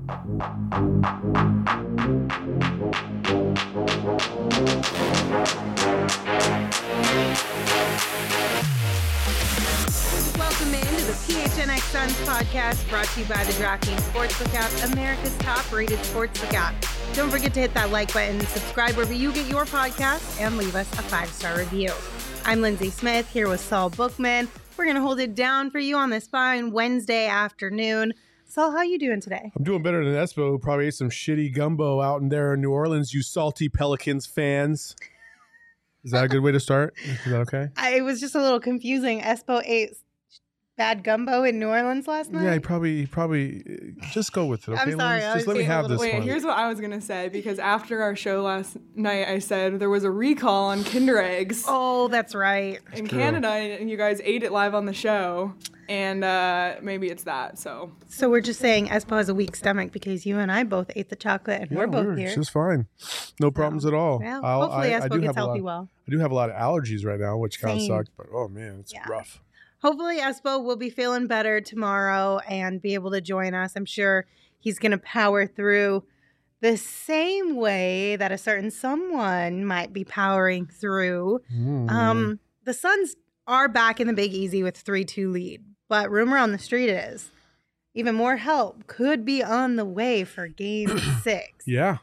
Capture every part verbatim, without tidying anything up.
Welcome into the P H N X Suns podcast, brought to you by the DraftKings Sportsbook app, America's top-rated sportsbook app. Don't forget to hit that like button, subscribe wherever you get your podcast, and leave us a five-star review. I'm Lindsay Smith here with Saul Bookman. We're going to hold it down for you on this fine Wednesday afternoon. Saul, how you doing today? I'm doing better than Espo, who probably ate some shitty gumbo out in there in New Orleans, you salty Pelicans fans. Is that a good way to start? Is that okay? I, it was just a little confusing. Espo ate bad gumbo in New Orleans last night? Yeah, he probably, he probably, just go with it, okay? I'm sorry. Liz? Just let me have this Wait, one. here's what I was going to say, because after our show last night, I said there was a recall on Kinder Eggs. Oh, that's right. That's in true. Canada, and you guys ate it live on the show, and uh, maybe it's that, so. So we're just saying Espo has a weak stomach because you and I both ate the chocolate, and Yeah, we're both we're here. just fine. No problems at all. Well, I'll- hopefully I- I Espo do gets have a healthy lot- well. I do have a lot of allergies right now, which kind of Same. sucks, but oh man, it's Yeah. rough. Hopefully Espo will be feeling better tomorrow and be able to join us. I'm sure he's going to power through the same way that a certain someone might be powering through. Mm. Um, the Suns are back in the Big Easy with three two lead, but rumor on the street is even more help could be on the way for game six. Yeah.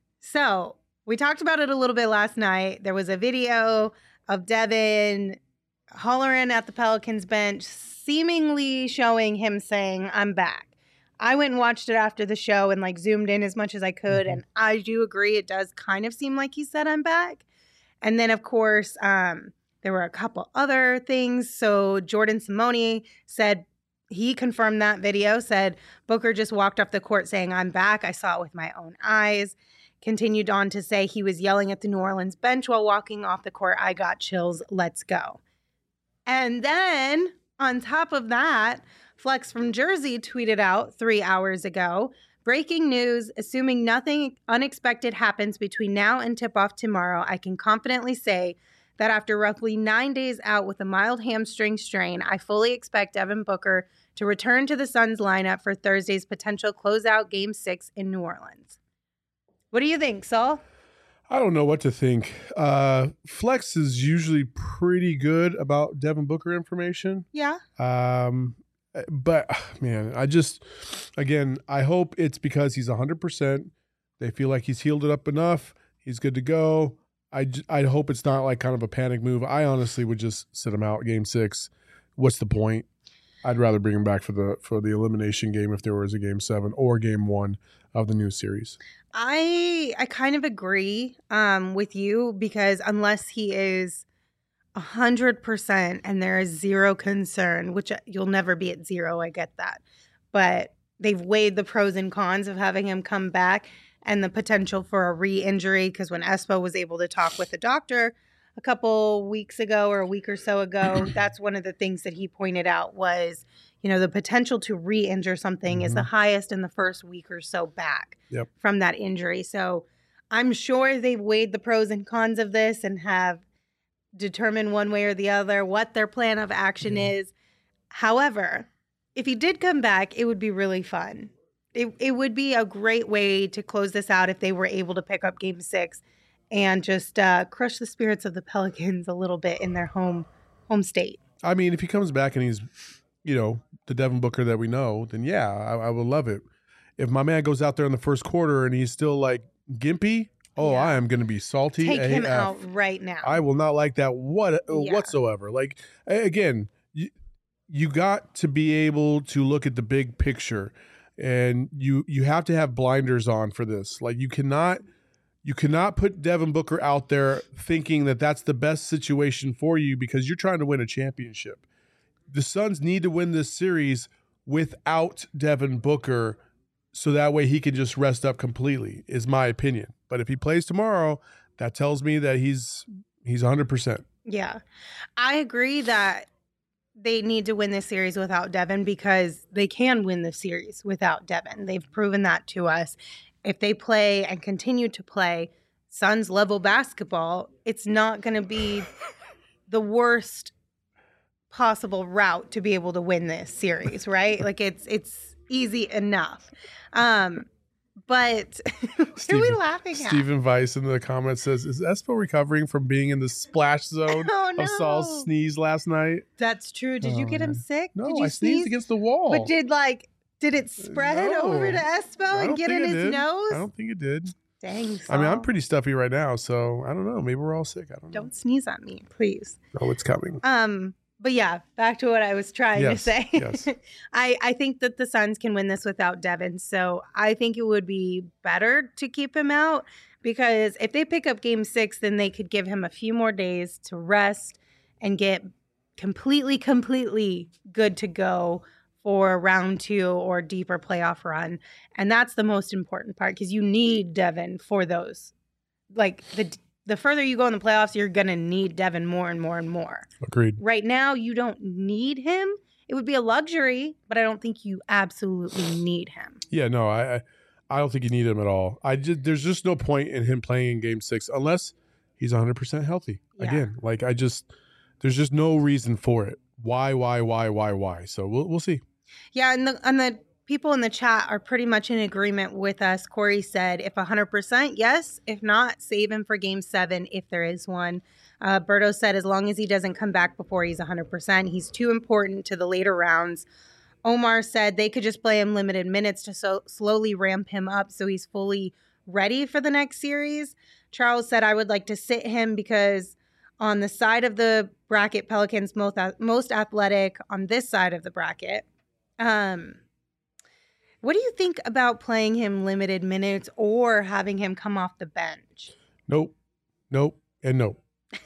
So we talked about it a little bit last night. There was a video of Devin hollering at the Pelicans bench, seemingly showing him saying, "I'm back." I went and watched it after the show and like zoomed in as much as I could. Mm-hmm. And I do agree, it does kind of seem like he said, "I'm back." And then, of course, um, there were a couple other things. So Jordan Simone said, he confirmed that video, said Booker just walked off the court saying, "I'm back. I saw it with my own eyes." Continued on to say he was yelling at the New Orleans bench while walking off the court. "I got chills. Let's go." And then on top of that, Flex from Jersey tweeted out three hours ago, "Breaking news, assuming nothing unexpected happens between now and tip-off tomorrow, I can confidently say that after roughly nine days out with a mild hamstring strain, I fully expect Devin Booker to return to the Suns lineup for Thursday's potential closeout Game six in New Orleans." What do you think, Saul? I don't know what to think. Uh, Flex is usually pretty good about Devin Booker information. Yeah. Um, but, man, I just, again, I hope it's because he's one hundred percent. They feel like he's healed it up enough. He's good to go. I, I hope it's not like kind of a panic move. I honestly would just sit him out game six. What's the point? I'd rather bring him back for the for the elimination game if there was a game seven or game one of the new series. I I kind of agree um, with you because unless he is one hundred percent and there is zero concern, which you'll never be at zero, I get that. But they've weighed the pros and cons of having him come back and the potential for a re-injury because when Espo was able to talk with the doctor a couple weeks ago or a week or so ago, that's one of the things that he pointed out was, you know, the potential to re-injure something mm-hmm. is the highest in the first week or so back yep. from that injury. So I'm sure they've weighed the pros and cons of this and have determined one way or the other what their plan of action mm-hmm. is. However, if he did come back, it would be really fun. It, it would be a great way to close this out if they were able to pick up game six and just uh, crush the spirits of the Pelicans a little bit in their home home state. I mean, if he comes back and he's, you know, the Devin Booker that we know, then yeah, I, I would love it. If my man goes out there in the first quarter and he's still like gimpy, oh, yeah. I am going to be salty. Take A F. him out right now. I will not like that what yeah. whatsoever. Like, again, you, you got to be able to look at the big picture, and you you have to have blinders on for this. Like, you cannot – You cannot put Devin Booker out there thinking that that's the best situation for you because you're trying to win a championship. The Suns need to win this series without Devin Booker so that way he can just rest up completely, is my opinion. But if he plays tomorrow, that tells me that he's he's one hundred percent. Yeah. I agree that they need to win this series without Devin because they can win the series without Devin. They've proven that to us. If they play and continue to play Suns level basketball, it's not going to be the worst possible route to be able to win this series, right? Like it's it's easy enough. Um, But what are we laughing at? Stephen Weiss in the comments says, is Espo recovering from being in the splash zone Oh, no. of Saul's sneeze last night? That's true. Did you Oh, get him man. sick? No, did you I sneezed sneeze? against the wall. But did like did it spread No. over to Espo I and don't get think in it his did. nose? I don't think it did. Dang. I mean, I'm Saul. pretty stuffy right now, so I don't know. Maybe we're all sick. I don't know. Don't sneeze on me, please. Oh, it's coming. Um, but yeah, back to what I was trying Yes, to say. yes. I, I think that the Suns can win this without Devin. So I think it would be better to keep him out because if they pick up game six, then they could give him a few more days to rest and get completely, completely good to go for round two or deeper playoff run. And that's the most important part because you need Devin for those. Like the the further you go in the playoffs, you're going to need Devin more and more and more. Agreed. Right now, you don't need him. It would be a luxury, but I don't think you absolutely need him. Yeah, no, I, I I don't think you need him at all. I just, there's just no point in him playing in game six unless he's one hundred percent healthy. Yeah. Again, like I just, there's just no reason for it. Why, why, why, why, why? So we'll we'll see. Yeah, and the and the people in the chat are pretty much in agreement with us. Corey said, if one hundred percent, yes. If not, save him for game seven if there is one. Uh, Berto said, as long as he doesn't come back before he's one hundred percent, he's too important to the later rounds. Omar said they could just play him limited minutes to so slowly ramp him up so he's fully ready for the next series. Charles said, I would like to sit him because on the side of the bracket, Pelicans most, most athletic on this side of the bracket. Um, what do you think about playing him limited minutes or having him come off the bench? Nope, nope, and nope.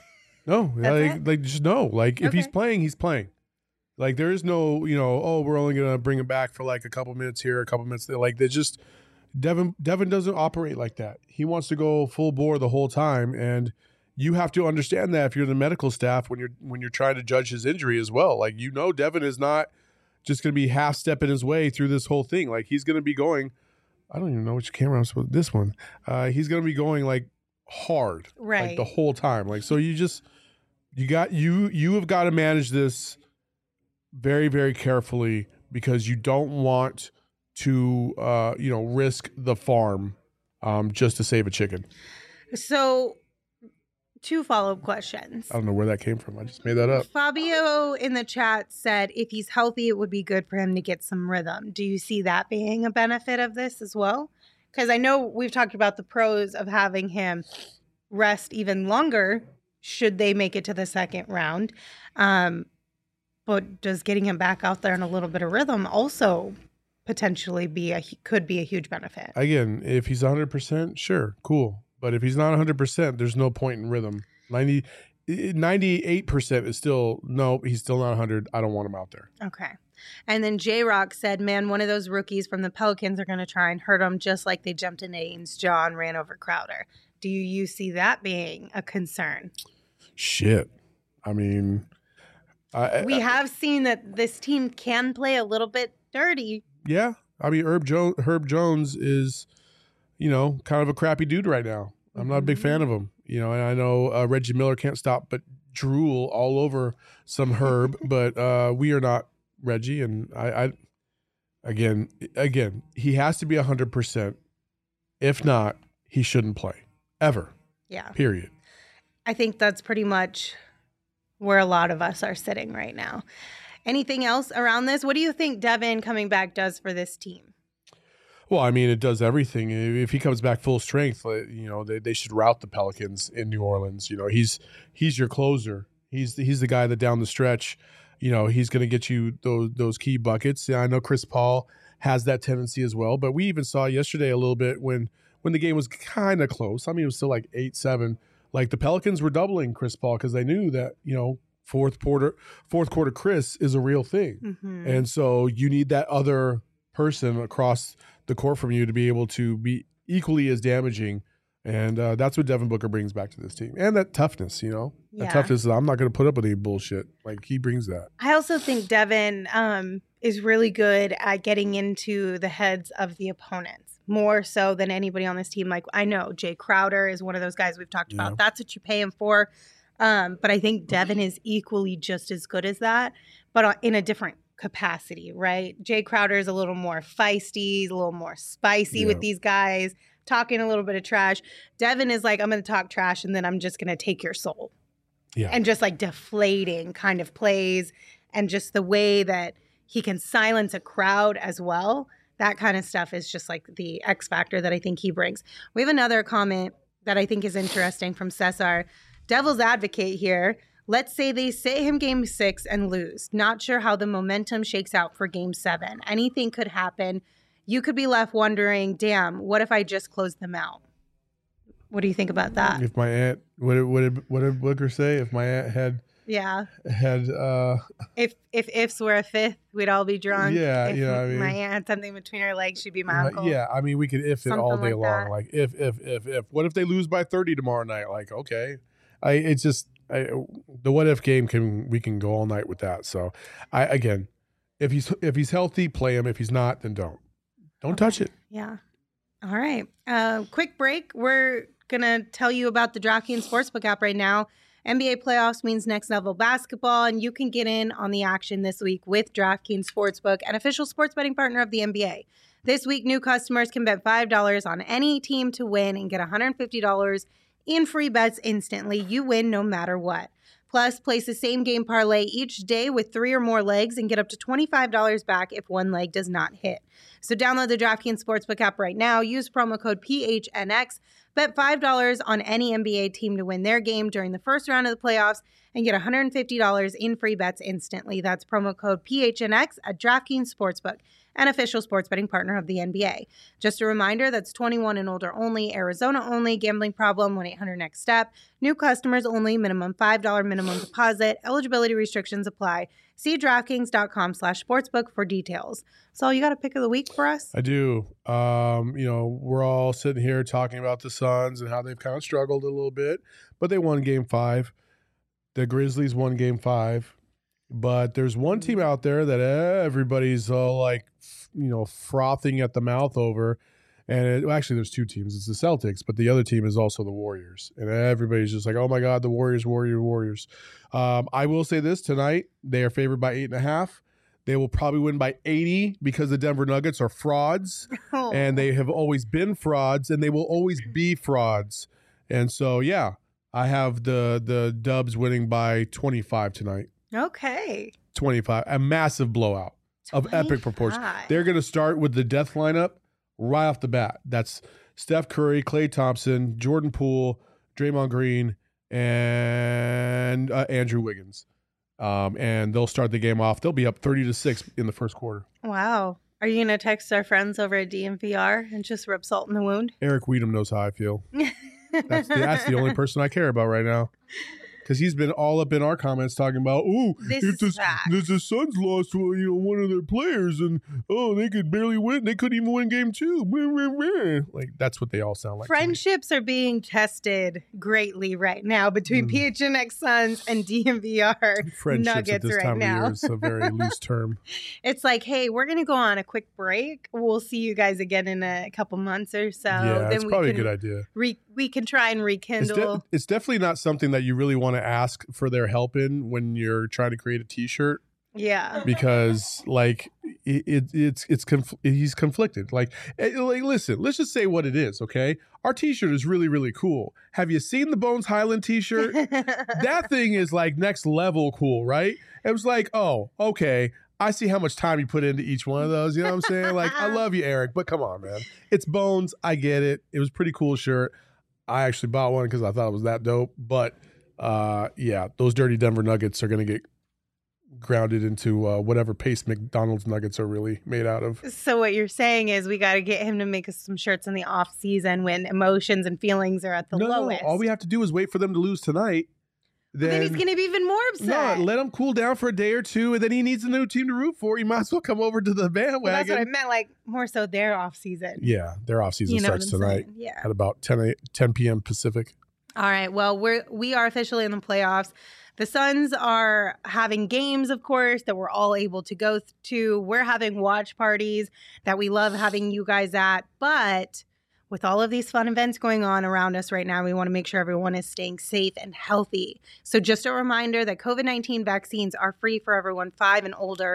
No, That's like, it? like just no. Like if he's Okay. playing, he's playing. Like there is no, you know, oh, we're only gonna bring him back for like a couple minutes here, a couple minutes there. Like they just Devin Devin doesn't operate like that. He wants to go full bore the whole time, and you have to understand that if you're the medical staff when you're when you're trying to judge his injury as well. Like you know, Devin is not just going to be half stepping his way through this whole thing. Like he's going to be going. I don't even know which camera I'm supposed. This one. Uh, he's going to be going like hard, Right. like the whole time. Like so, you just you got you you have got to manage this very very carefully because you don't want to uh, you know risk the farm um, just to save a chicken. So, two follow-up questions. I don't know where that came from. I just made that up. Fabio in the chat said if he's healthy, it would be good for him to get some rhythm. Do you see that being a benefit of this as well? Because I know we've talked about the pros of having him rest even longer should they make it to the second round. Um, but does getting him back out there in a little bit of rhythm also potentially be a could be a huge benefit? Again, if he's one hundred percent, sure, cool. But if he's not one hundred percent, there's no point in rhythm. ninety, ninety-eight percent is still, no, he's still not one hundred. I don't want him out there. Okay. And then J-Rock said, man, one of those rookies from the Pelicans are going to try and hurt him just like they jumped into Aiden's jaw and ran over Crowder. Do you see that being a concern? Shit. I mean, I, We I, have seen that this team can play a little bit dirty. yeah. I mean, Herb, jo- Herb Jones is, you know, kind of a crappy dude right now. I'm not a big Mhm. fan of him. You know, and I know uh, Reggie Miller can't stop but drool all over some Herb, but uh, we are not Reggie. And I, I, again, again, he has to be one hundred percent. If not, he shouldn't play ever, Yeah. period. I think that's pretty much where a lot of us are sitting right now. Anything else around this? What do you think Devin coming back does for this team? Well, I mean, it does everything. If he comes back full strength, like, you know, they, they should rout the Pelicans in New Orleans. You know, he's he's your closer. He's he's the guy that down the stretch, you know, he's going to get you those those key buckets. Yeah, I know Chris Paul has that tendency as well, but we even saw yesterday a little bit when when the game was kind of close. I mean, it was still like eight seven. Like the Pelicans were doubling Chris Paul because they knew that, you know, fourth quarter fourth quarter Chris is a real thing, Mm-hmm. and so you need that other person across the court from you to be able to be equally as damaging. And uh, that's what Devin Booker brings back to this team. And that toughness, you know, Yeah. that toughness. I'm not going to put up with any bullshit. Like he brings that. I also think Devin um, is really good at getting into the heads of the opponents, more so than anybody on this team. Like I know Jay Crowder is one of those guys we've talked Yeah. about. That's what you pay him for. Um, but I think Devin is equally just as good as that, but in a different capacity, right? Jay Crowder is a little more feisty, he's a little more spicy Yeah. with these guys, talking a little bit of trash. Devin is like, I'm going to talk trash and then I'm just going to take your soul. Yeah. And just like deflating kind of plays and just the way that he can silence a crowd as well. That kind of stuff is just like the X factor that I think he brings. We have another comment that I think is interesting from Cesar. Devil's advocate here. Let's say they sit him game six and lose. Not sure how the momentum shakes out for game seven. Anything could happen. You could be left wondering, damn, what if I just closed them out? What do you think about that? If my aunt, what did, what did, what did Booker say? If my aunt had, Yeah. had, uh, If if ifs were a fifth, we'd all be drunk. Yeah, if you know what I mean? my aunt had something between her legs, she'd be my uh, uncle. yeah, I mean, we could if it all Something day like long. that. Like if, if, if, if, what if they lose by thirty tomorrow night? Like, okay. I, it's just, I, the what if game can, we can go all night with that. So I, again, if he's, if he's healthy, play him. If he's not, then don't, don't touch it. Yeah. All right. Uh, quick break. We're going to tell you about the DraftKings Sportsbook app right now. N B A playoffs means next level basketball, and you can get in on the action this week with DraftKings Sportsbook, an official sports betting partner of the N B A. This week, new customers can bet five dollars on any team to win and get one hundred fifty dollars in free bets instantly. You win no matter what. Plus, place the same game parlay each day with three or more legs and get up to twenty-five dollars back if one leg does not hit. So download the DraftKings Sportsbook app right now. Use promo code P H N X. Bet five dollars on any N B A team to win their game during the first round of the playoffs and get one hundred fifty dollars in free bets instantly. That's promo code P H N X at DraftKings Sportsbook, an official sports betting partner of the N B A. Just a reminder, that's twenty-one and older only, Arizona only, gambling problem, one eight hundred next step. New customers only, minimum five dollars minimum deposit. Eligibility restrictions apply. See DraftKings.com slash sportsbook for details. So you got a pick of the week for us? I do. Um, you know, we're all sitting here talking about the Suns and how they've kind of struggled a little bit, but they won game five. The Grizzlies won game five. But there's one team out there that everybody's all like, you know, frothing at the mouth over. And it, well, actually, there's two teams. It's the Celtics, but the other team is also the Warriors. And everybody's just like, oh, my God, the Warriors, Warriors, Warriors. Um, I will say this tonight. They are favored by eight and a half. They will probably win by eighty because the Denver Nuggets are frauds. Oh. And they have always been frauds, and they will always be frauds. And so, yeah, I have the the Dubs winning by twenty-five tonight. Okay. twenty-five, a massive blowout of epic proportions. twenty-five. They're going to start with the death lineup right off the bat. That's Steph Curry, Klay Thompson, Jordan Poole, Draymond Green, and uh, Andrew Wiggins. Um, and they'll start the game off. They'll be up thirty to six in the first quarter. Wow. Are you going to text our friends over at D M V R and just rub salt in the wound? Eric Weedham knows how I feel. That's the, that's the only person I care about right now. Because he's been all up in our comments talking about, oh, This if is the, fact. if the Suns lost, well, you know, one of their players, and oh, they could barely win. They couldn't even win game two. Blah, blah, blah. Like that's what they all sound like. to me. Friendships are being tested greatly right now between Mm. P H N X Suns and D M V R Friendships Nuggets at this right time now. of year is a very loose term. It's like, hey, we're going to go on a quick break. We'll see you guys again in a couple months or so. yeah, then it's we probably can a good idea. Re- we can try and It's, rekindle. de- it's definitely not something that you really want to ask for their help in when you're trying to create a T-shirt. yeah. Because like it, it it's it's conf- he's conflicted. Like, eh, like listen, let's just say what it is. Okay, our T-shirt is really really cool. Have you seen the Bones Highland T-shirt? That thing is like next level cool, right? It was like, oh, okay. I see how much time you put into each one of those. You know what I'm saying? Like, I love you, Eric, but come on, man. It's Bones. I get it. It was a pretty cool shirt. I actually bought one because I thought it was that dope. But uh, yeah, those dirty Denver Nuggets are going to get grounded into uh, whatever paste McDonald's nuggets are really made out of. So what you're saying is we got to get him to make us some shirts in the off season when emotions and feelings are at the no, lowest. all we have to do is wait for them to lose tonight. But then he's going to be even more upset. No, let him cool down for a day or two, and then he needs a new team to root for. He might as well come over to the bandwagon. Well, that's what I meant, like more so their off season. Yeah, their off season You know starts what I'm tonight saying? Yeah. at about ten p.m. Pacific. All right. Well, we're we are officially in the playoffs. The Suns are having games, of course, that we're all able to go to. We're having watch parties that we love having you guys at. But with all of these fun events going on around us right now, we want to make sure everyone is staying safe and healthy. So just a reminder that COVID nineteen vaccines are free for everyone five and older.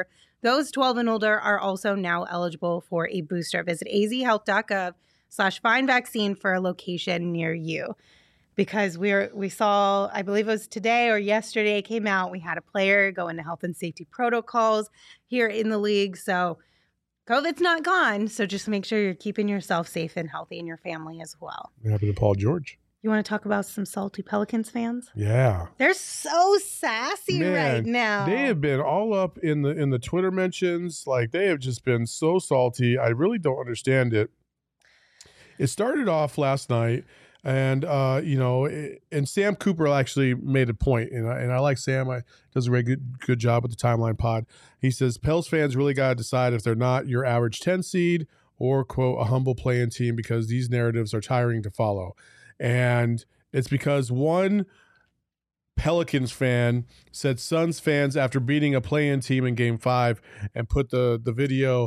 Those twelve and older are also now eligible for a booster. Visit azhealth.gov slash find vaccine for a location near you. Because we're we saw, I believe it was today or yesterday it came out, we had a player go into health and safety protocols here in the league. So COVID's not gone. So just make sure you're keeping yourself safe and healthy and your family as well. What happened to Paul George? You want to talk about some salty Pelicans fans? Yeah. They're so sassy Man, right now. They have been all up in the in the Twitter mentions. Like, they have just been so salty. I really don't understand it. It started off last night, and uh, you know, it, and Sam Cooper actually made a point, and I, and I like Sam. I does a very good good job with the Timeline Pod. He says Pels fans really got to decide if they're not your average ten seed or, quote, a humble play-in team, because these narratives are tiring to follow. And it's because one Pelicans fan said Suns fans, after beating a play-in team in game five, and put the the video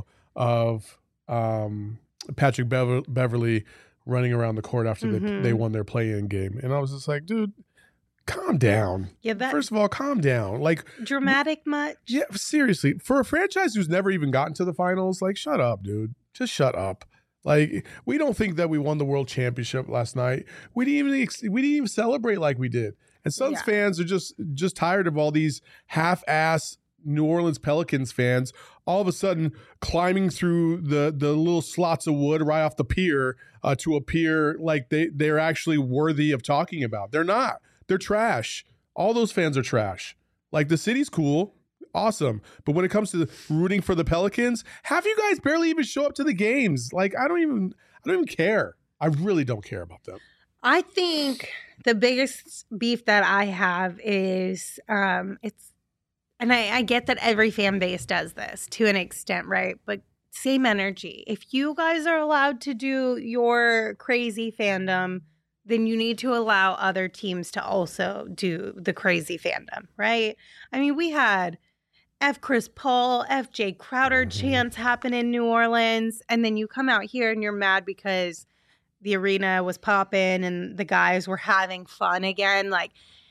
of um, Patrick Bever- Beverly running around the court after Mhm. they, they won their play-in game. And I was just like, dude, calm down. Yeah, that First of all, calm down. Like, dramatic much? yeah, seriously, for a franchise who's never even gotten to the finals, like, shut up, dude. Just shut up. Like, we don't think that we won the world championship last night. We didn't even ex- we didn't even celebrate like we did. And Suns Yeah. fans are just just tired of all these half-ass New Orleans Pelicans fans all of a sudden climbing through the the little slots of wood right off the pier uh, to appear like they they're actually worthy of talking about. They're not. They're trash. All those fans are trash. Like, the city's cool. Awesome. But when it comes to rooting for the Pelicans, half you guys barely even show up to the games. Like, I don't even I don't even care. I really don't care about them. I think the biggest beef that I have is um, it's, and I, I get that every fan base does this to an extent, right? But same energy. If you guys are allowed to do your crazy fandom, then you need to allow other teams to also do the crazy fandom, right? I mean, we had F Chris Paul, F J Crowder Mhm. chants happen in New Orleans, and then you come out here and you're mad because the arena was popping and the guys were having fun again. Like,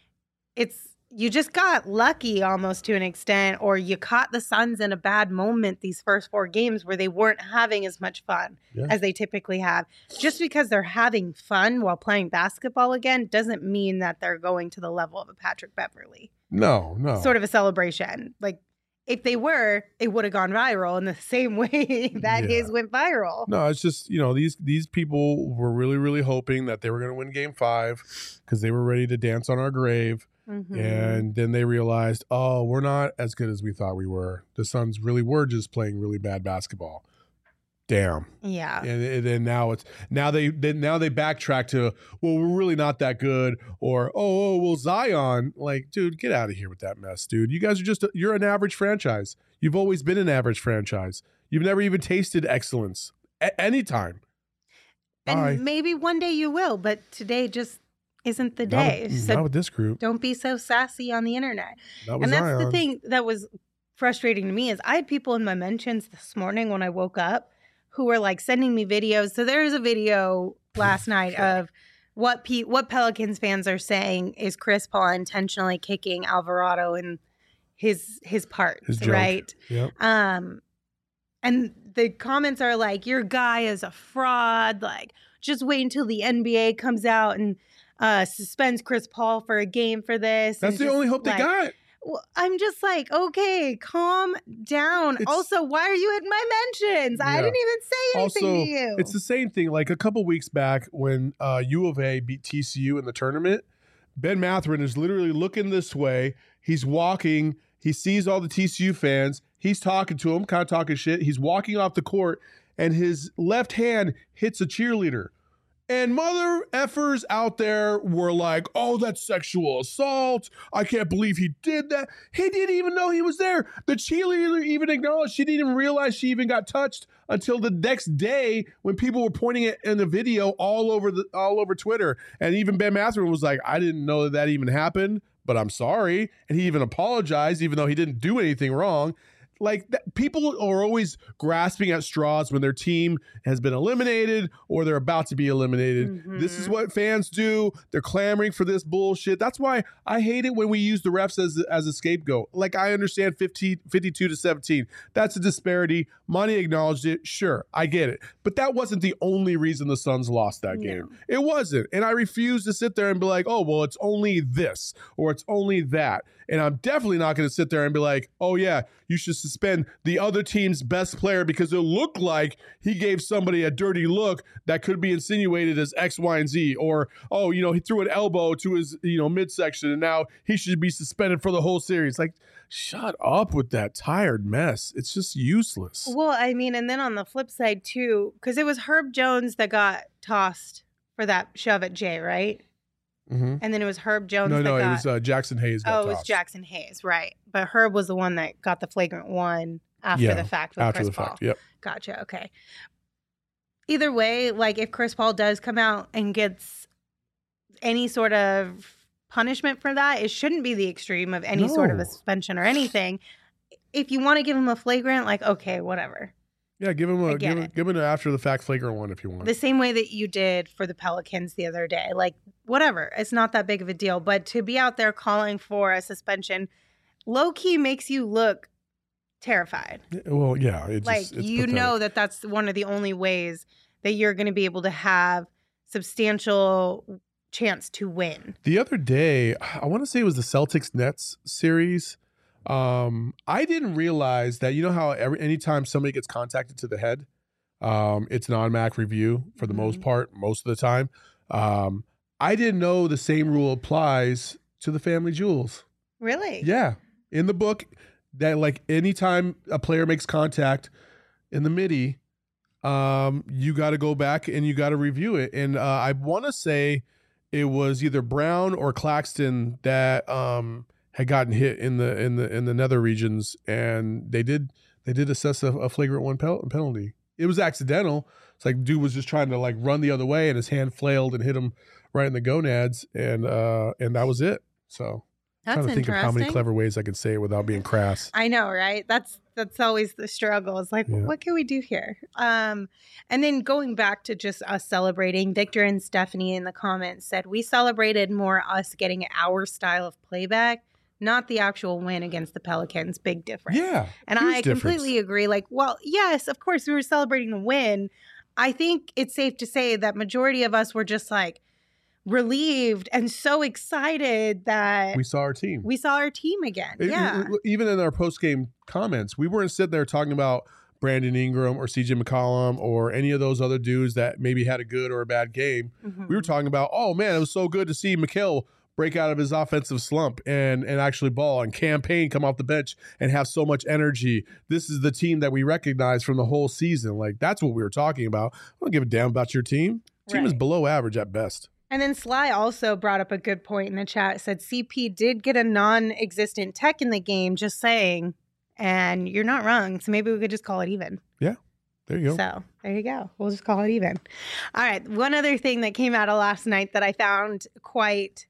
it's, you just got lucky almost to an extent, or you caught the Suns in a bad moment these first four games where they weren't having as much fun Yeah. as they typically have. Just because they're having fun while playing basketball again doesn't mean that they're going to the level of a Patrick Beverly. No, no. Sort of a celebration. Like, if they were, it would have gone viral in the same way that Yeah. his went viral. No, it's just, you know, these these people were really, really hoping that they were going to win game five because they were ready to dance on our grave. Mhm. And then they realized, oh, we're not as good as we thought we were. The Suns really were just playing really bad basketball. Damn. Yeah. And, and then now it's now they then now they backtrack to, well, we're really not that good, or oh, oh well, Zion. Like, dude, get out of here with that mess, dude. You guys are just you're an average franchise. You've always been an average franchise. You've never even tasted excellence at any time. And Bye. maybe one day you will, but today just isn't the Not day. with, so not with this group. don't be so sassy on the internet. Not with And that's Zion. the thing that was frustrating to me is I had people in my mentions this morning when I woke up who were like sending me videos. So there's a video last night of what Pe- what Pelicans fans are saying is Chris Paul intentionally kicking Alvarado in his his parts, His junk. right? Yep. Um, and the comments are like, your guy is a fraud. Like, just wait until the N B A comes out and uh, suspends Chris Paul for a game for this. That's and the just, only hope like, they got. Well, I'm just like, okay, calm down. It's- also, why are you in my mentions? I Yeah. didn't even say anything Also, to you. it's the same thing. Like a couple weeks back when uh, U of A beat T C U in the tournament, Ben Mathurin is literally looking this way. He's walking. He sees all the T C U fans. He's talking to them, kind of talking shit. He's walking off the court, and his left hand hits a cheerleader. And mother effers out there were like, oh, that's sexual assault. I can't believe he did that. He didn't even know he was there. The cheerleader even acknowledged she didn't even realize she even got touched until the next day when people were pointing it in the video all over the all over Twitter. And even Ben Mathurin was like, I didn't know that that even happened, but I'm sorry. And he even apologized, even though he didn't do anything wrong. Like that, people are always grasping at straws when their team has been eliminated or they're about to be eliminated. Mm-hmm. This is what fans do. They're clamoring for this bullshit. That's why I hate it when we use the refs as as a scapegoat. Like I understand fifteen, fifty-two to seventeen. That's a disparity. Monty acknowledged it. Sure, I get it. But that wasn't the only reason the Suns lost that game. No. It wasn't. And I refuse to sit there and be like, oh, well, it's only this or it's only that. And I'm definitely not going to sit there and be like, oh, yeah, you should suspend the other team's best player because it looked like he gave somebody a dirty look that could be insinuated as X, Y, and Z. Or, oh, you know, he threw an elbow to his, you know, midsection and now he should be suspended for the whole series. Like, shut up with that tired mess. It's just useless. Well, I mean, and then on the flip side, too, because it was Herb Jones that got tossed for that shove at Jay, right? Mm-hmm. And then it was Herb Jones No, that no, got... it was uh, Jackson Hayes. Got Oh, it was tossed. Jackson Hayes, right. But Herb was the one that got the flagrant one after Yeah, the fact with After Chris the Paul. fact, yep. Gotcha, okay. Either way, like if Chris Paul does come out and gets any sort of punishment for that, it shouldn't be the extreme of any sort of No. a suspension or anything. If you want to give him a flagrant, like, okay, whatever. Yeah, give him I a get give him, it. give him an after the fact flagrant one if you want. The same way that you did for the Pelicans the other day. Like, whatever. It's not that big of a deal. But to be out there calling for a suspension low-key makes you look terrified. Well, yeah, it just, Like, it's you pathetic. know that that's one of the only ways that you're going to be able to have substantial chance to win. The other day, I want to say it was the Celtics Nets series. Um, I didn't realize that, you know how every anytime somebody gets contacted to the head, um, it's an automatic review for the most Mhm. part, most of the time. Um, I didn't know the same rule applies to the family jewels. Really? Yeah. In the book, that like anytime a player makes contact in the midi, um, you got to go back and you got to review it. And uh, I want to say it was either Brown or Claxton that um, had gotten hit in the in the in the nether regions, and they did they did assess a, a flagrant one pel- penalty. It was accidental. It's like dude was just trying to like run the other way, and his hand flailed and hit him right in the gonads, and uh, and that was it. So. That's Trying to think of how many interesting. clever ways I could say it without being crass. I know, right? That's that's always the struggle. It's like, Yeah. what can we do here? Um, and then going back to just us celebrating, Victor and Stephanie in the comments said we celebrated more us getting our style of playback, not the actual win against the Pelicans. Big difference. Yeah. And huge I difference. completely agree. Like, well, yes, of course we were celebrating the win. I think it's safe to say that majority of us were just like relieved and so excited that We saw our team. we saw our team again. It- yeah. it- even in our post game comments, we weren't sitting there talking about Brandon Ingram or C J McCollum or any of those other dudes that maybe had a good or a bad game. Mhm. We were talking about, oh man, it was so good to see Mikal break out of his offensive slump and and actually ball, and Campaign come off the bench and have so much energy. This is the team that we recognize from the whole season. Like that's what we were talking about. I don't give a damn about your team. Team is Right. below average at best. And then Sly also brought up a good point in the chat. Said C P did get a non-existent tech in the game, just saying. And you're not wrong. So maybe we could just call it even. There you go. So there you go. We'll just call it even. All right. One other thing that came out of last night that I found quite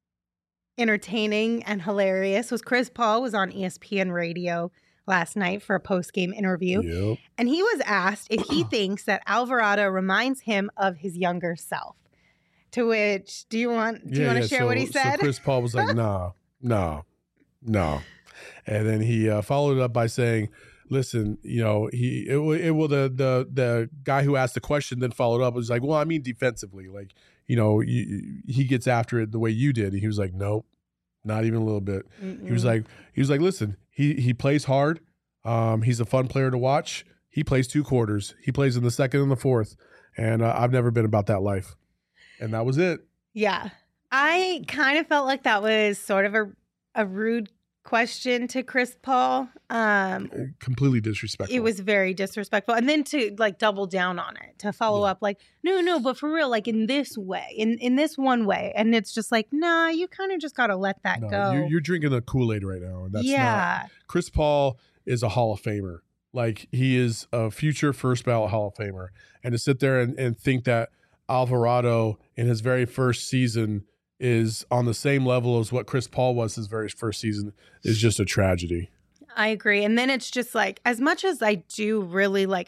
entertaining and hilarious was Chris Paul was on E S P N radio last night for a post-game interview. Yep. And he was asked if he thinks that Alvarado reminds him of his younger self. To which, do you want do you want to share so, what he said? So Chris Paul was like, nah, nah, no. And then he uh, followed it up by saying, listen, you know, he, it, will- it will, the, the, the guy who asked the question then followed up was like, well, I mean, defensively, like, you know, you, he gets after it the way you did. And he was like, nope, not even a little bit. He was Mm-mm. like, he was like, listen, he, he plays hard. Um, he's a fun player to watch. He plays two quarters. He plays in the second and the fourth. And uh, I've never been about that life. And that was it. Yeah. I kind of felt like that was sort of a, a rude question to Chris Paul. Um, Completely disrespectful. it was very disrespectful. And then to like double down on it, to follow Yeah. up like, no, no, but for real, like in this way, in, in this one way. And it's just like, nah, you kind of just got to let that No, go. You're, you're drinking the Kool-Aid right now. And that's not. yeah. Chris Paul is a Hall of Famer. Like he is a future first ballot Hall of Famer. And to sit there and, and think that Alvarado in his very first season is on the same level as what Chris Paul was his very first season is just a tragedy. I agree. And then it's just like, as much as I do really like,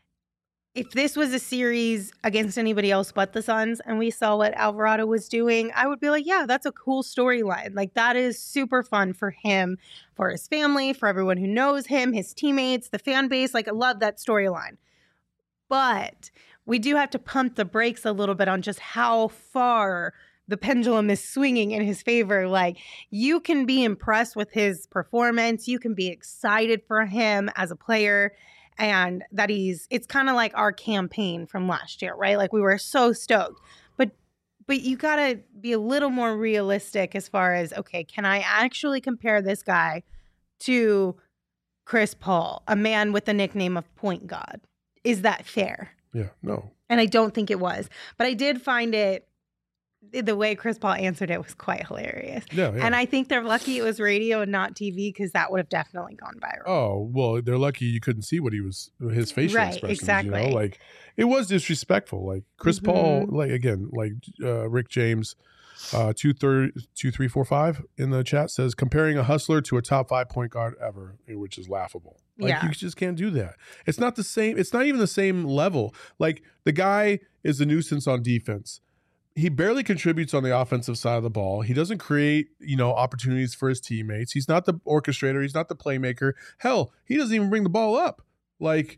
if this was a series against anybody else but the Suns and we saw what Alvarado was doing, I would be like, yeah, that's a cool storyline. Like, that is super fun for him, for his family, for everyone who knows him, his teammates, the fan base. Like, I love that storyline. But we do have to pump the brakes a little bit on just how far the pendulum is swinging in his favor. Like, you can be impressed with his performance. You can be excited for him as a player, and that he's, it's kind of like our campaign from last year, right? Like, we were so stoked, but, but you got to be a little more realistic as far as, okay, can I actually compare this guy to Chris Paul, a man with the nickname of Point God? Is that fair? Yeah, no. And I don't think it was, but I did find it, the way Chris Paul answered it was quite hilarious. Yeah, yeah. And I think they're lucky it was radio and not T V, because that would have definitely gone viral. Oh, well, they're lucky you couldn't see what he was, his facial Right, expressions. exactly. You know? Like, it was disrespectful. Like, Chris Mhm. Paul, like, again, like uh, Rick James, uh, two, thir- two, three, four, five in the chat says, comparing a hustler to a top five point guard ever, which is laughable. Like, Yeah. you just can't do that. It's not the same. It's not even the same level. Like, the guy is a nuisance on defense. He barely contributes on the offensive side of the ball. He doesn't create, you know, opportunities for his teammates. He's not the orchestrator. He's not the playmaker. Hell, he doesn't even bring the ball up. Like,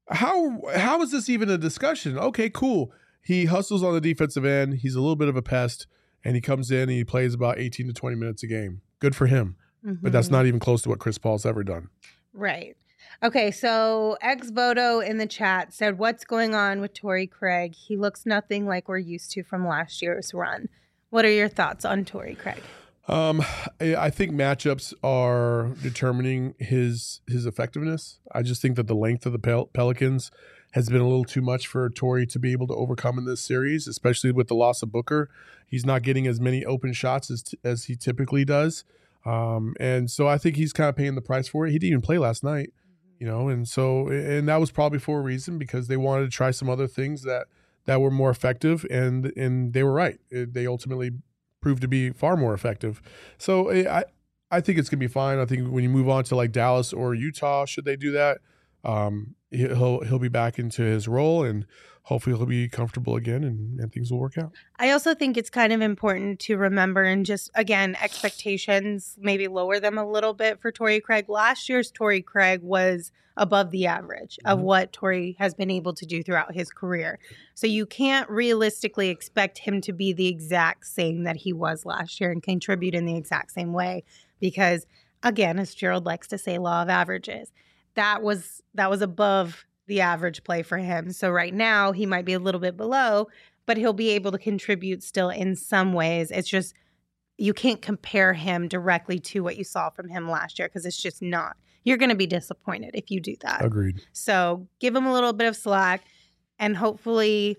how how is this even a discussion? Okay, cool. He hustles on the defensive end. He's a little bit of a pest, and he comes in and he plays about eighteen to twenty minutes a game. Good for him. But that's Mhm. not even close to what Chris Paul's ever done. Right. Okay, so Ex Voto in the chat said, what's going on with Torrey Craig? He looks nothing like we're used to from last year's run. What are your thoughts on Torrey Craig? Um, I I think matchups are determining his his effectiveness. I just think that the length of the Pel- Pelicans has been a little too much for Torrey to be able to overcome in this series, especially with the loss of Booker. He's not getting as many open shots as t- as he typically does. Um, and so I think he's kind of paying the price for it. He didn't even play last night, you know, and so, and that was probably for a reason, because they wanted to try some other things that, that were more effective, and, and they were right. It, they ultimately proved to be far more effective. So I, I think it's going to be fine. I think when you move on to like Dallas or Utah, should they do that, um, he'll, he'll be back into his role, and hopefully he'll be comfortable again, and, and things will work out. I also think it's kind of important to remember, and just, again, expectations, maybe lower them a little bit for Torrey Craig. Last year's Torrey Craig was above the average of Mhm. what Torrey has been able to do throughout his career. So you can't realistically expect him to be the exact same that he was last year and contribute in the exact same way, because, again, as Gerald likes to say, law of averages. That was that was above the average play for him. So right now he might be a little bit below, but he'll be able to contribute still in some ways. It's just, you can't compare him directly to what you saw from him last year, because it's just not. You're going to be disappointed if you do that. Agreed. So give him a little bit of slack, and hopefully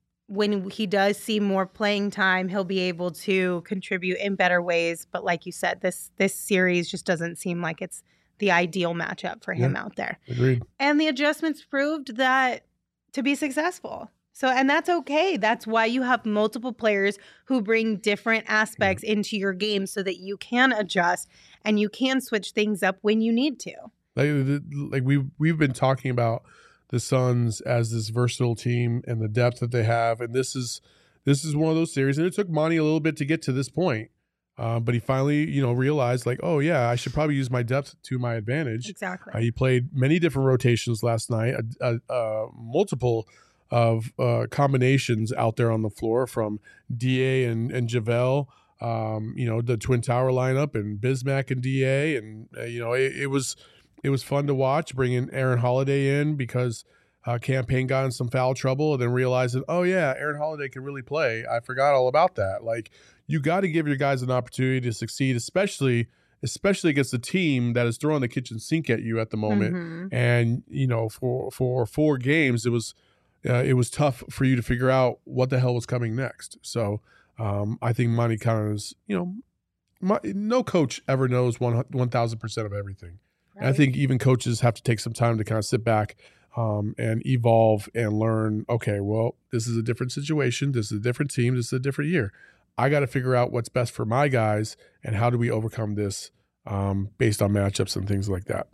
when he does see more playing time, he'll be able to contribute in better ways. But like you said, this this series just doesn't seem like it's the ideal matchup for him Yeah. out there. Agreed. And the adjustments proved that to be successful. So, and that's okay. That's why you have multiple players who bring different aspects into your game, so that you can adjust and you can switch things up when you need to. Like, like we we've been talking about the Suns as this versatile team and the depth that they have, and this is this is one of those series. And it took Monty a little bit to get to this point, uh, but he finally, you know, realized like, oh yeah, I should probably use my depth to my advantage. Exactly. Uh, he played many different rotations last night, a, a, a multiple of uh, combinations out there on the floor, from D A and and JaVale. Um, you know, the Twin Tower lineup, and Bismack and D A, and uh, you know, it, it was. It was fun to watch, bringing Aaron Holiday in because uh, Campaign got in some foul trouble, and then realizing, oh yeah, Aaron Holiday can really play. I forgot all about that. Like, you got to give your guys an opportunity to succeed, especially especially against a team that is throwing the kitchen sink at you at the moment. Mhm. And you know, for for four games, it was uh, it was tough for you to figure out what the hell was coming next. So um, I think Monty kind of is, you know, my, no coach ever knows one one thousand percent of everything. And I think even coaches have to take some time to kind of sit back um, and evolve and learn, okay, well, this is a different situation. This is a different team. This is a different year. I got to figure out what's best for my guys, and how do we overcome this um, based on matchups and things like that.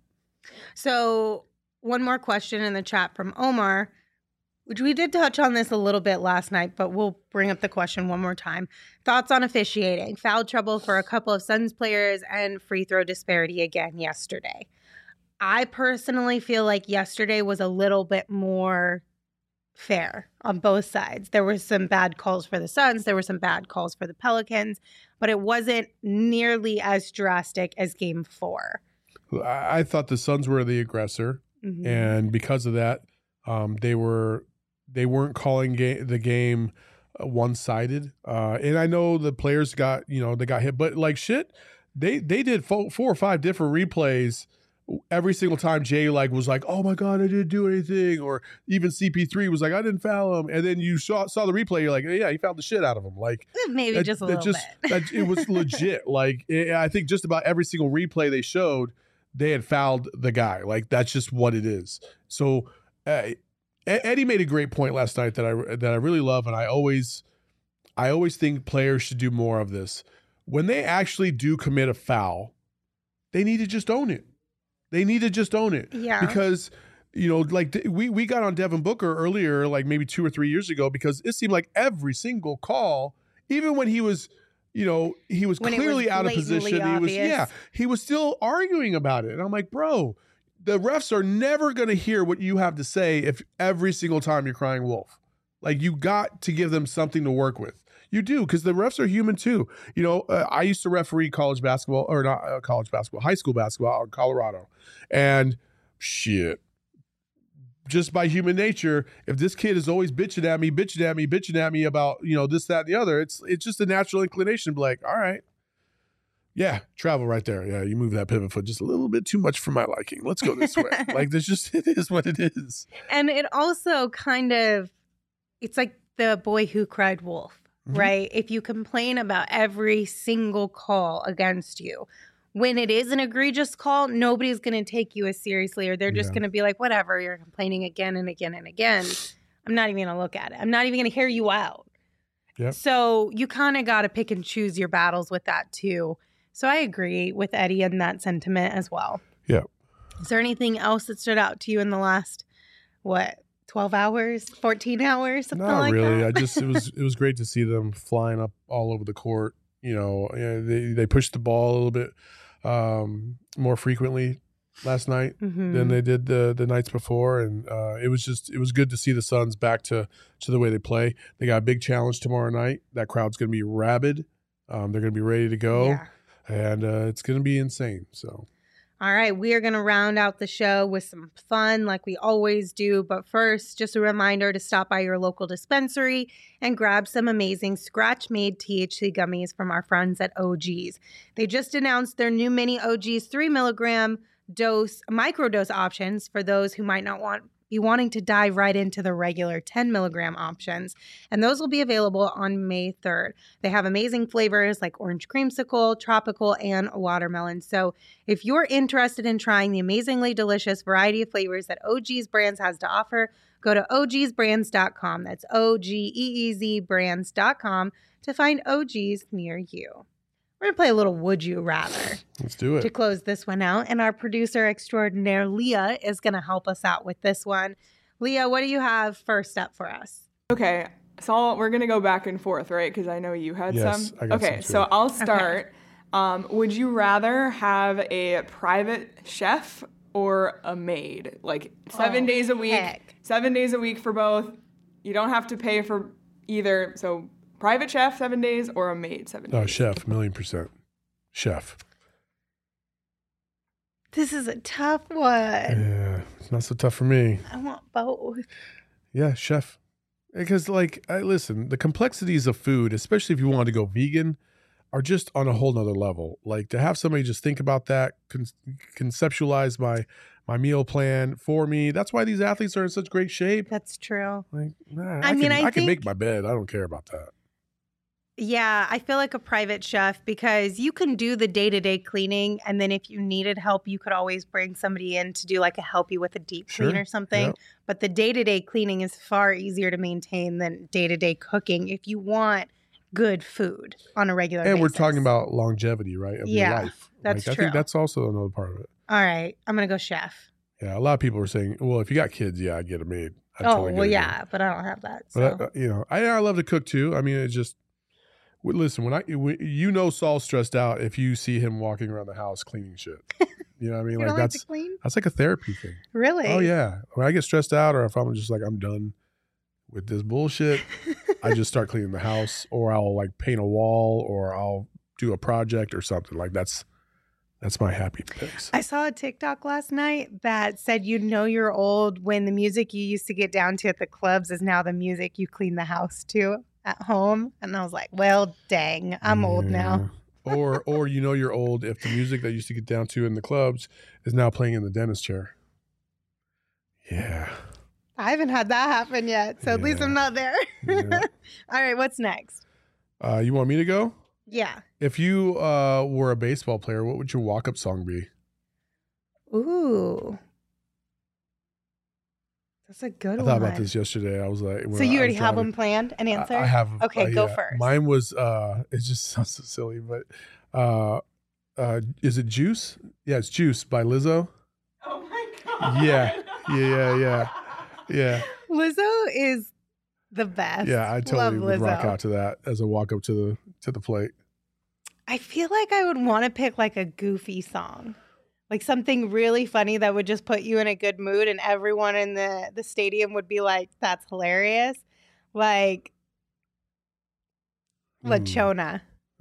So one more question in the chat from Omar, which we did touch on this a little bit last night, but we'll bring up the question one more time. Thoughts on officiating? Foul trouble for a couple of Suns players and free throw disparity again yesterday. I personally feel like yesterday was a little bit more fair on both sides. There were some bad calls for the Suns. There were some bad calls for the Pelicans, but it wasn't nearly as drastic as game four. I, I thought the Suns were the aggressor, mm-hmm. and because of that, um, they were they weren't calling ga- the game uh, one-sided. Uh, and I know the players got you know they got hit, but like shit, they they did four, four or five different replays. Every single time Jay like was like, "Oh my God, I didn't do anything," or even C P three was like, "I didn't foul him," and then you saw saw the replay, you're like, "Yeah, he fouled the shit out of him." Like maybe that, just a little just, bit. that, it was legit. Like it, I think just about every single replay they showed, they had fouled the guy. Like that's just what it is. So uh, Eddie made a great point last night that I that I really love, and I always I always think players should do more of this. When they actually do commit a foul, they need to just own it. They need to just own it. Yeah. Because, you know, like we, we got on Devin Booker earlier, like maybe two or three years ago, because it seemed like every single call, even when he was, you know, he was when clearly was out of position. Obvious. He was, yeah, he was still arguing about it. And I'm like, bro, the refs are never going to hear what you have to say if every single time you're crying wolf. Like you got to give them something to work with. You do, because the refs are human too. You know, uh, I used to referee college basketball, or not uh, college basketball, high school basketball out in Colorado. And shit, just by human nature, if this kid is always bitching at me, bitching at me, bitching at me about, you know, this, that, and the other, it's it's just a natural inclination to be like, all right, yeah, travel right there. Yeah, you move that pivot foot just a little bit too much for my liking. Let's go this way. Like, there's just, it is what it is. And it also kind of, it's like the boy who cried wolf. Mm-hmm. Right? If you complain about every single call against you, when it is an egregious call, nobody's going to take you as seriously, or they're just yeah. going to be like, whatever, you're complaining again and again and again. I'm not even going to look at it. I'm not even going to hear you out. Yep. So you kind of got to pick and choose your battles with that too. So I agree with Eddie in that sentiment as well. Yeah. Is there anything else that stood out to you in the last, what, twelve hours, fourteen hours, something Not like really. that? I just it was it was great to see them flying up all over the court. You know, they they pushed the ball a little bit um, more frequently last night mm-hmm. than they did the the nights before, and uh, it was just it was good to see the Suns back to to the way they play. They got a big challenge tomorrow night. That crowd's going to be rabid. Um, they're going to be ready to go, yeah. and uh, it's going to be insane. So. All right, we are going to round out the show with some fun like we always do. But first, just a reminder to stop by your local dispensary and grab some amazing scratch-made T H C gummies from our friends at O G's. They just announced their new mini O G's three milligram dose, microdose options for those who might not want be wanting to dive right into the regular ten milligram options. And those will be available on May third. They have amazing flavors like orange creamsicle, tropical, and watermelon. So if you're interested in trying the amazingly delicious variety of flavors that O G's Brands has to offer, go to O Gs brands dot com. That's O G E E Z brands dot com to find O G's near you. We're going to play a little Would You Rather. Let's do it. To close this one out. And our producer extraordinaire, Leah, is going to help us out with this one. Leah, what do you have first up for us? Okay. So we're going to go back and forth, right? Because I know you had yes, some. I got okay. some So I'll start. Okay. Um, would you rather have a private chef or a maid? Like seven oh, days a week. Heck. Seven days a week for both. You don't have to pay for either. So private chef seven days or a maid seven days? Oh, chef, a million percent. Chef. This is a tough one. Yeah, it's not so tough for me. I want both. Yeah, chef. Because, like, I listen, the complexities of food, especially if you want to go vegan, are just on a whole nother level. Like, to have somebody just think about that, con- conceptualize my my meal plan for me. That's why these athletes are in such great shape. That's true. Like, nah, I I, mean, can, I I can think- make my bed. I don't care about that. Yeah, I feel like a private chef because you can do the day-to-day cleaning, and then if you needed help, you could always bring somebody in to do like a help you with a deep clean Sure. or something. Yep. But the day-to-day cleaning is far easier to maintain than day-to-day cooking. If you want good food on a regular And basis. we're talking about longevity, right? Of Yeah, your life. that's like, I true. think that's also another part of it. All right, I'm gonna go chef. Yeah, a lot of people are saying, well, if you got kids, yeah, I get a maid. I Oh totally get well, a yeah, maid. but I don't have that. So. But, I, you know, I, I love to cook too. I mean, it's just, w- listen, when I, when, you know, Saul's stressed out if you see him walking around the house cleaning shit. You know what I mean? You Like don't like that's, to clean? that's like a therapy thing. Really? Oh yeah. When I get stressed out or if I'm just like, I'm done with this bullshit, I just start cleaning the house or I'll like paint a wall or I'll do a project or something. Like that's, that's my happy place. I saw a TikTok last night that said you know you're old when the music you used to get down to at the clubs is now the music you clean the house to at home. And I was like, well, dang, I'm old now. Yeah. or or you know you're old if the music that used to get down to in the clubs is now playing in the dentist chair. Yeah. I haven't had that happen yet, so at least Yeah. I'm not there. Yeah. All right, what's next? Uh, you want me to go? Yeah. If you uh, were a baseball player, what would your walk-up song be? Ooh. That's a good I one. thought about this yesterday. I was like, when So you I already was have driving- one planned, an answer? I, I have. Okay, uh, go yeah. first. Mine was. Uh, it just sounds so silly, but uh, uh, is it Juice? Yeah, it's Juice by Lizzo. Oh my god. Yeah, yeah, yeah, yeah, yeah, Lizzo is the best. yeah. I totally Love would Lizzo. rock out to that as a walk up to the to the plate. I feel like I would want to pick like a goofy song. Like something really funny that would just put you in a good mood and everyone in the, the stadium would be like, that's hilarious. Like Mm. Lachona.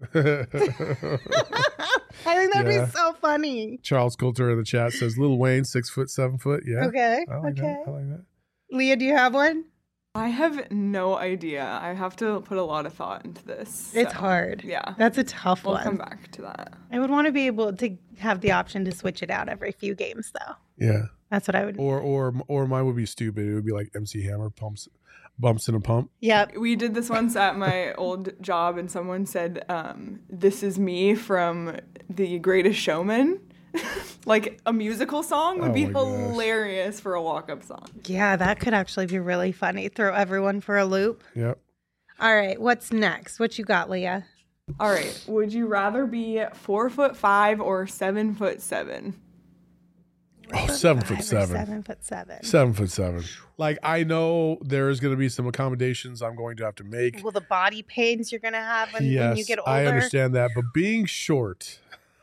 I think that'd Yeah. be so funny. Charles Coulter in the chat says Lil Wayne, six foot, seven foot. Yeah. Okay. I like okay. that. I like that. Leah, do you have one? I have no idea. I have to put a lot of thought into this. It's so, hard. Yeah. That's a tough We'll one. come back to that. I would want to be able to have the option to switch it out every few games, though. Yeah. That's what I would. Or or or mine would be stupid. It would be like M C Hammer pumps, bumps in a pump. Yep. We did this once at my old job, and someone said, um, "This is me from The Greatest Showman." Like a musical song would Oh be my gosh. hilarious for a walk-up song. Yeah, that could actually be really funny. Throw everyone for a loop. Yep. All right, what's next? What you got, Leah? All right. Would you rather be four foot five or seven foot seven? Oh, seven Five foot or seven. Seven foot seven. Seven foot seven. Like I know there is going to be some accommodations I'm going to have to make. Well, the body pains you're gonna have when, yes, when you get older. I understand that, but being short,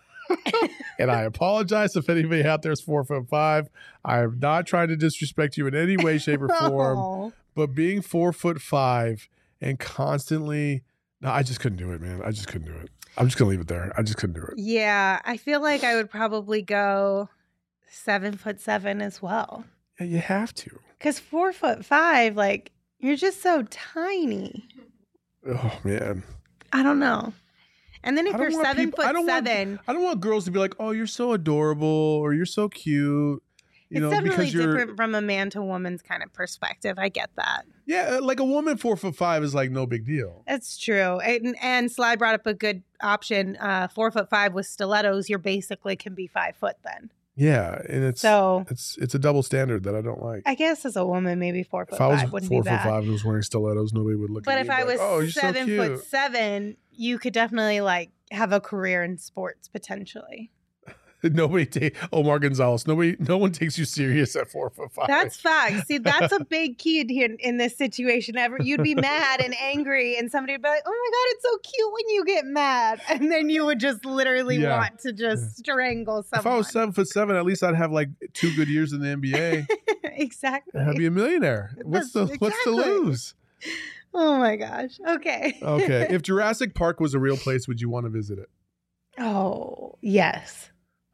and I apologize if anybody out there is four foot five. I am not trying to disrespect you in any way, shape, or form. Oh. But being four foot five and constantly, no, I just couldn't do it, man. I just couldn't do it. I'm just gonna leave it there. I just couldn't do it. Yeah, I feel like I would probably go seven foot seven as well. Yeah, you have to. Because four foot five, like you're just so tiny. Oh man. I don't know. And then if I don't you're want seven people- I foot don't want- seven, I don't want girls to be like, "Oh, you're so adorable," or "You're so cute." You it's know, definitely because you're different from a man to woman's kind of perspective. I get that. yeah, like a woman four foot five is like no big deal. It's true. And, and Sly brought up a good option. Uh, four foot five with stilettos, you're basically can be five foot then. Yeah, and it's So it's it's a double standard that I don't like. I guess as a woman, maybe four foot If I was five wouldn't four be foot bad. five and was wearing stilettos, nobody would look But at if me I and be was like, "Oh, you're seven so cute." foot seven, you could definitely like have a career in sports potentially. Nobody take Omar Gonzalez. Nobody, no one takes you serious at four foot five. That's facts. See, that's a big key in, here in this situation. Ever you'd be mad and angry, and somebody would be like, "Oh my god, it's so cute when you get mad," and then you would just literally Yeah. want to just strangle someone. If I was seven foot seven, at least I'd have like two good years in the N B A. Exactly. I'd be a millionaire. What's the That's- what's to exactly. lose? Oh my gosh. Okay. Okay, if Jurassic Park was a real place, would you want to visit it? Oh yes.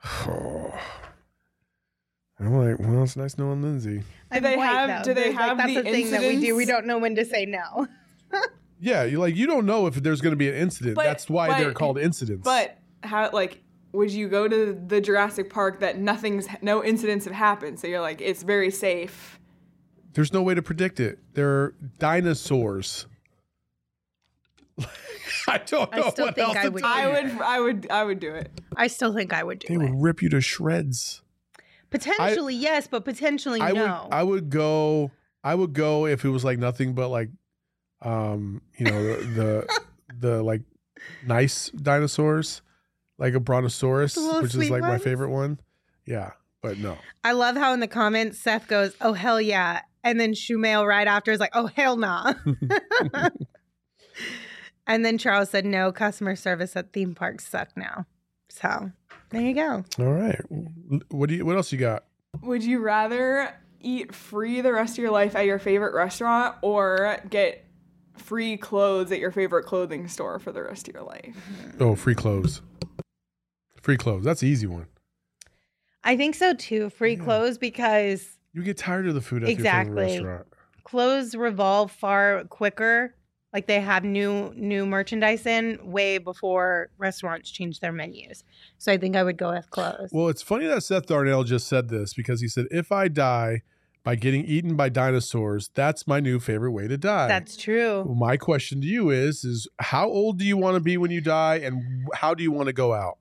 I'm like, well, it's nice knowing Lindsay. I'm they white, have- though. do they There's, have like, that's the the thing that we do. We incidents? don't know when to say no. Yeah, you like you don't know if there's going to be an incident. But- That's why but- they're called incidents. But how like would you go to the Jurassic Park that nothing's no incidents have happened? So you're like it's very safe. there's no way to predict it. They're dinosaurs. I don't I know still what think else I to would tell I you. would I would I would do it. I still think I would do They it. would rip you to shreds. Potentially yes, but potentially I no. would I would go I would go if it was like nothing but like um you know the the, the like nice dinosaurs, like a brontosaurus, The little which is sweet like my ones? favorite one. Yeah, but no. I love how in the comments Seth goes, "Oh hell yeah," and then Shumail right after is like, "Oh hell nah." And then Charles said, "No, customer service at theme parks suck now." So there you go. All right. What do you? What else you got? Would you rather eat free the rest of your life at your favorite restaurant or get free clothes at your favorite clothing store for the rest of your life? Oh, free clothes. Free clothes. That's the easy one. I think so too. Free Yeah. clothes because You get tired of the food at your Exactly. favorite restaurant. clothes revolve far quicker. Like they have new new merchandise in way before restaurants change their menus. So I think I would go with clothes. Well, it's funny that Seth Darnell just said this because he said, if I die by getting eaten by dinosaurs, that's my new favorite way to die. That's true. Well, my question to you is, is how old do you want to be when you die and how do you want to go out?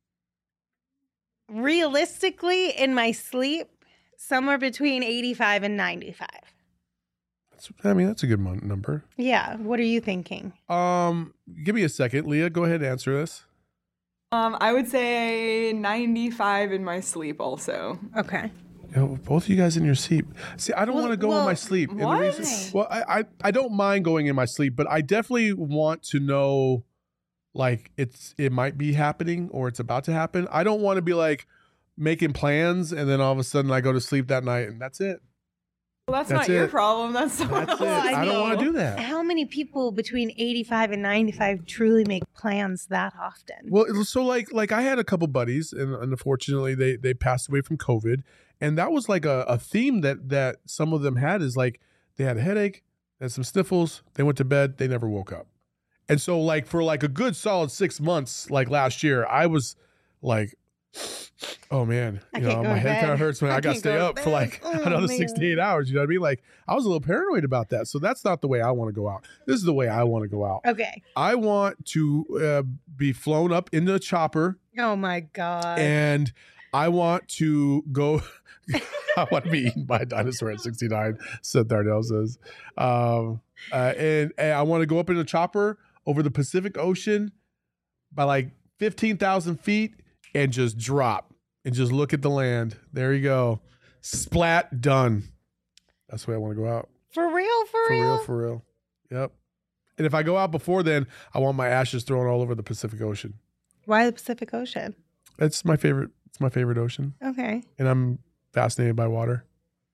Realistically, in my sleep, somewhere between eighty-five and ninety-five. That's, I mean, that's a good mon- number. Yeah. What are you thinking? Um, give me a second. Leah, go ahead and answer this. Um, I would say ninety-five in my sleep also. Okay. You know, both of you guys in your sleep. See, I don't Well- want to go in well, my sleep. And the what? reason- well, I, I I don't mind going in my sleep, but I definitely want to know, like it's it might be happening or it's about to happen. I don't want to be like making plans and then all of a sudden I go to sleep that night and that's it. Well, that's, That's not your it. problem. That's someone That's it. else's. I I don't know. want to do that. How many people between eighty-five and ninety-five truly make plans that often? Well, it was so like like I had a couple buddies, and unfortunately they they passed away from COVID, and that was like a, a theme that that some of them had is like they had a headache, they had some sniffles, they went to bed, they never woke up, and so like for like a good solid six months, like last year, I was like, oh man, I you can't know go my to head kind bed. of hurts when I, I got to can't stay go to up for bed. like Oh, another man. six to eight hours. You know what I mean? Like I was a little paranoid about that, so that's not the way I want to go out. This is the way I want to go out. Okay. I want to uh, be flown up in a chopper Oh my God. and I want to go. I want to be eaten by a dinosaur at sixty-nine, Seth Darnell says. Um, uh, and, and I want to go up in a chopper over the Pacific Ocean by like fifteen thousand feet and just drop and just look at the land. There you go. Splat, done. That's the way I want to go out. for real, for, For real? real, for real. Yep. And if I go out before then, I want my ashes thrown all over the Pacific Ocean. Why the Pacific Ocean? It's my favorite. It's my favorite ocean, Okay. and I'm fascinated by water.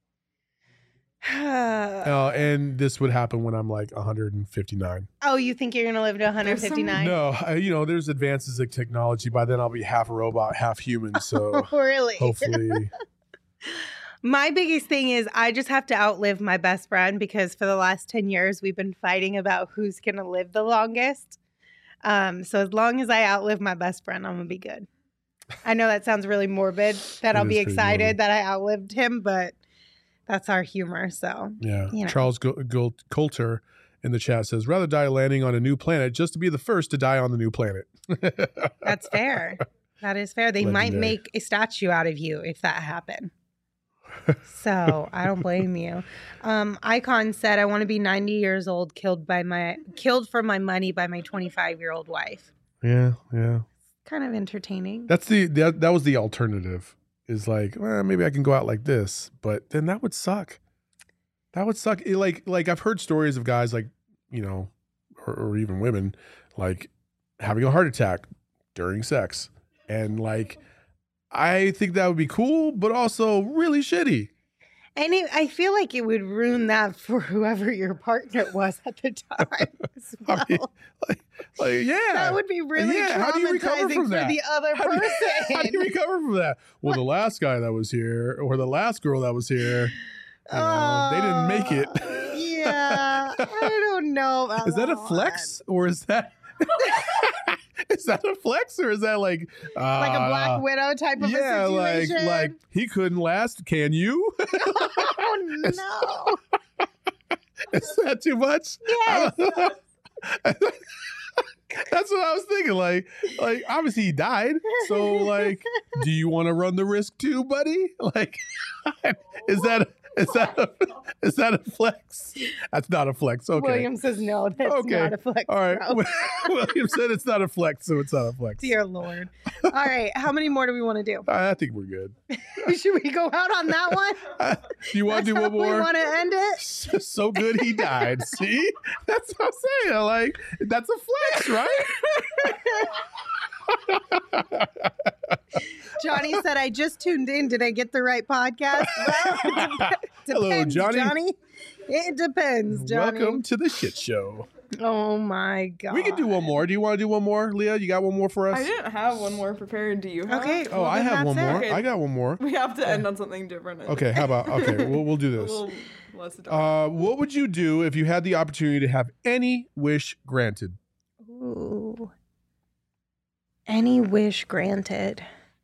Uh, and this would happen when I'm like one hundred fifty-nine. Oh, you think you're gonna live to one fifty-nine? No, I, you know, there's advances in technology. By then, I'll be half a robot, half human. So Oh, really? hopefully, My biggest thing is I just have to outlive my best friend because for the last ten years we've been fighting about who's gonna live the longest. Um, so as long as I outlive my best friend, I'm gonna be good. I know that sounds really morbid that It I'll is be pretty excited morbid. that I outlived him, but that's our humor. So yeah. You know. Charles Gol- Gol- Coulter in the chat says, "Rather die landing on a new planet just to be the first to die on the new planet." that's fair. That is fair. They might Legendary. make a statue out of you if that happened. So I don't blame you. Um, Icon said, "I want to be ninety years old, killed by my killed for my money by my twenty-five year old wife." Yeah, yeah. Kind of entertaining. That's the that, that was the alternative. Is like, well, maybe I can go out like this, but then that would suck. That would suck. It, like like I've heard stories of guys like, you know, or, or even women like having a heart attack during sex, and like I think that would be cool, but also really shitty. And it, I feel like it would ruin that for whoever your partner was at the time as well. I mean, like, like yeah, That would be really Yeah, how do you recover traumatizing from for that? the other How do you- person. how do you recover from that? Well, the last guy that was here, or the last girl that was here, you know, they didn't make it. Uh, yeah, I don't know. About Is that a one. flex or is that is that a flex or is that like uh, Like a Black Widow type of yeah, a like situation? like he couldn't last. Can you? oh no! Is that too much? Yes. That's what I was thinking. Like, like obviously he died. So like, do you want to run the risk too, buddy? Like, is that Is that a, is that a flex? That's not a flex. Okay. William says no, that's Okay. not a flex. All right. bro. William said it's not a flex, so it's not a flex. Dear Lord. All right. How many more do we want to do? I think we're good. Should we go out on that one? Uh, do you want to do That's one how more? We want to end it? So good he died. See? That's what I'm saying. Like, that's a flex, right? Johnny said, I just tuned in. Did I get the right podcast? Well, it dep- Hello, depends, Johnny. Johnny. It depends, Johnny. Welcome to the shit show. Oh, my God. We can do one more. Do you want to do one more, Leah? You got one more for us? I didn't have one more prepared. Do you have? Okay. Oh, well, I then have one that's it. more. Okay. I got one more. We have to end on something different. I think. Okay, how about, okay, we'll, we'll do A this. little less dark. Uh, what would you do if you had the opportunity to have any wish granted? Ooh. Any wish granted.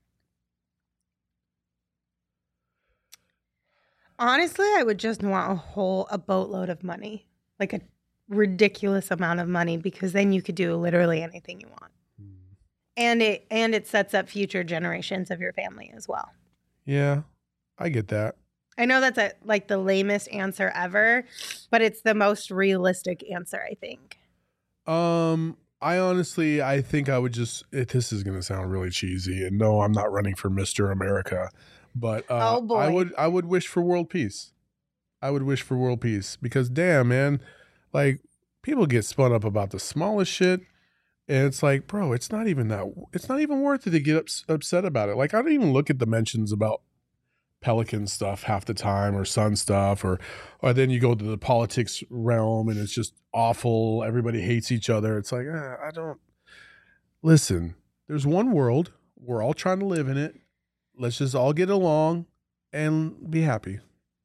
Honestly, I would just want a whole, a boatload of money. Like a ridiculous amount of money, because then you could do literally anything you want. And it and it sets up future generations of your family as well. Yeah, I get that. I know that's a, like the lamest answer ever, but it's the most realistic answer, I think. Um, I honestly, I think I would just. It, this is going to sound really cheesy, and no, I'm not running for Mister America, but uh, Oh, boy. I would. I would wish for world peace. I would wish for world peace because, damn, man, like people get spun up about the smallest shit, and it's like, bro, it's not even that. It's not even worth it to get ups, upset about it. Like, I don't even look at the mentions about Pelican stuff half the time, or Sun stuff, or or then you go to the politics realm and it's just awful. Everybody hates each other. It's like, eh, I don't listen. There's one world. We're all trying to live in it. Let's just all get along and be happy.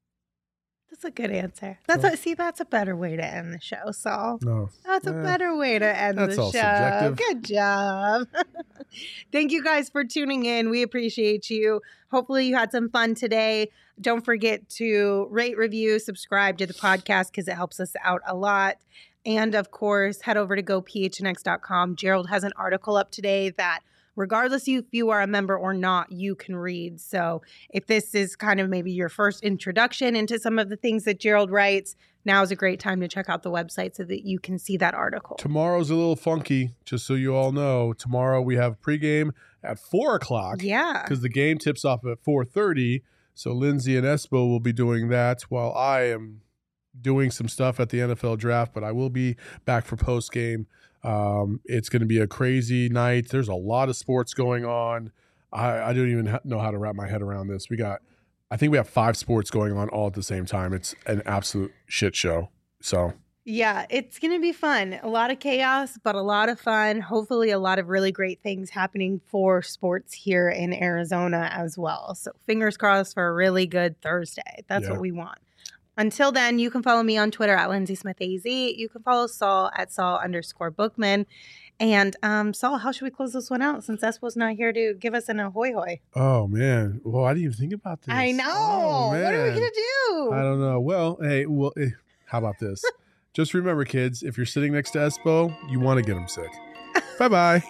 That's a good answer. That's Well- a, see, that's a better way to end the show, Saul. No, That's a Eh, better way to end that's the all show. subjective. Good job. Thank you guys for tuning in. We appreciate you. Hopefully you had some fun today. Don't forget to rate, review, subscribe to the podcast because it helps us out a lot. And of course, head over to go p h n x dot com. Gerald has an article up today that regardless if you are a member or not, you can read. So if this is kind of maybe your first introduction into some of the things that Gerald writes, now is a great time to check out the website so that you can see that article. tomorrow's a little funky. Just so you all know, tomorrow we have pregame at four o'clock. Yeah. because the game tips off at four thirty. So Lindsay and Espo will be doing that while I am doing some stuff at the N F L draft, but I will be back for post game. Um, it's going to be a crazy night. There's a lot of sports going on. I, I don't even ha- know how to wrap my head around this. We got, I think we have five sports going on all at the same time. It's an absolute shit show. So Yeah, it's going to be fun. A lot of chaos, but a lot of fun. Hopefully, a lot of really great things happening for sports here in Arizona as well. So, fingers crossed for a really good Thursday. That's Yeah. what we want. Until then, you can follow me on Twitter at Lindsay Smith A Z. You can follow Saul at Saul underscore Bookman. And um, Saul, how should we close this one out since Espo's not here to give us an ahoy hoy? Oh man, well I didn't even think about this. I know. Oh, What are we man. going to do? I don't know. Well, hey, well, eh, how about this? Just remember, kids, if you're sitting next to Espo, you want to get him sick. Bye bye.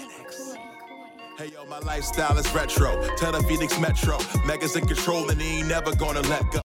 Hey yo, my lifestyle is retro. Tell the Phoenix Metro. Megas in control and he ain't never gonna let go.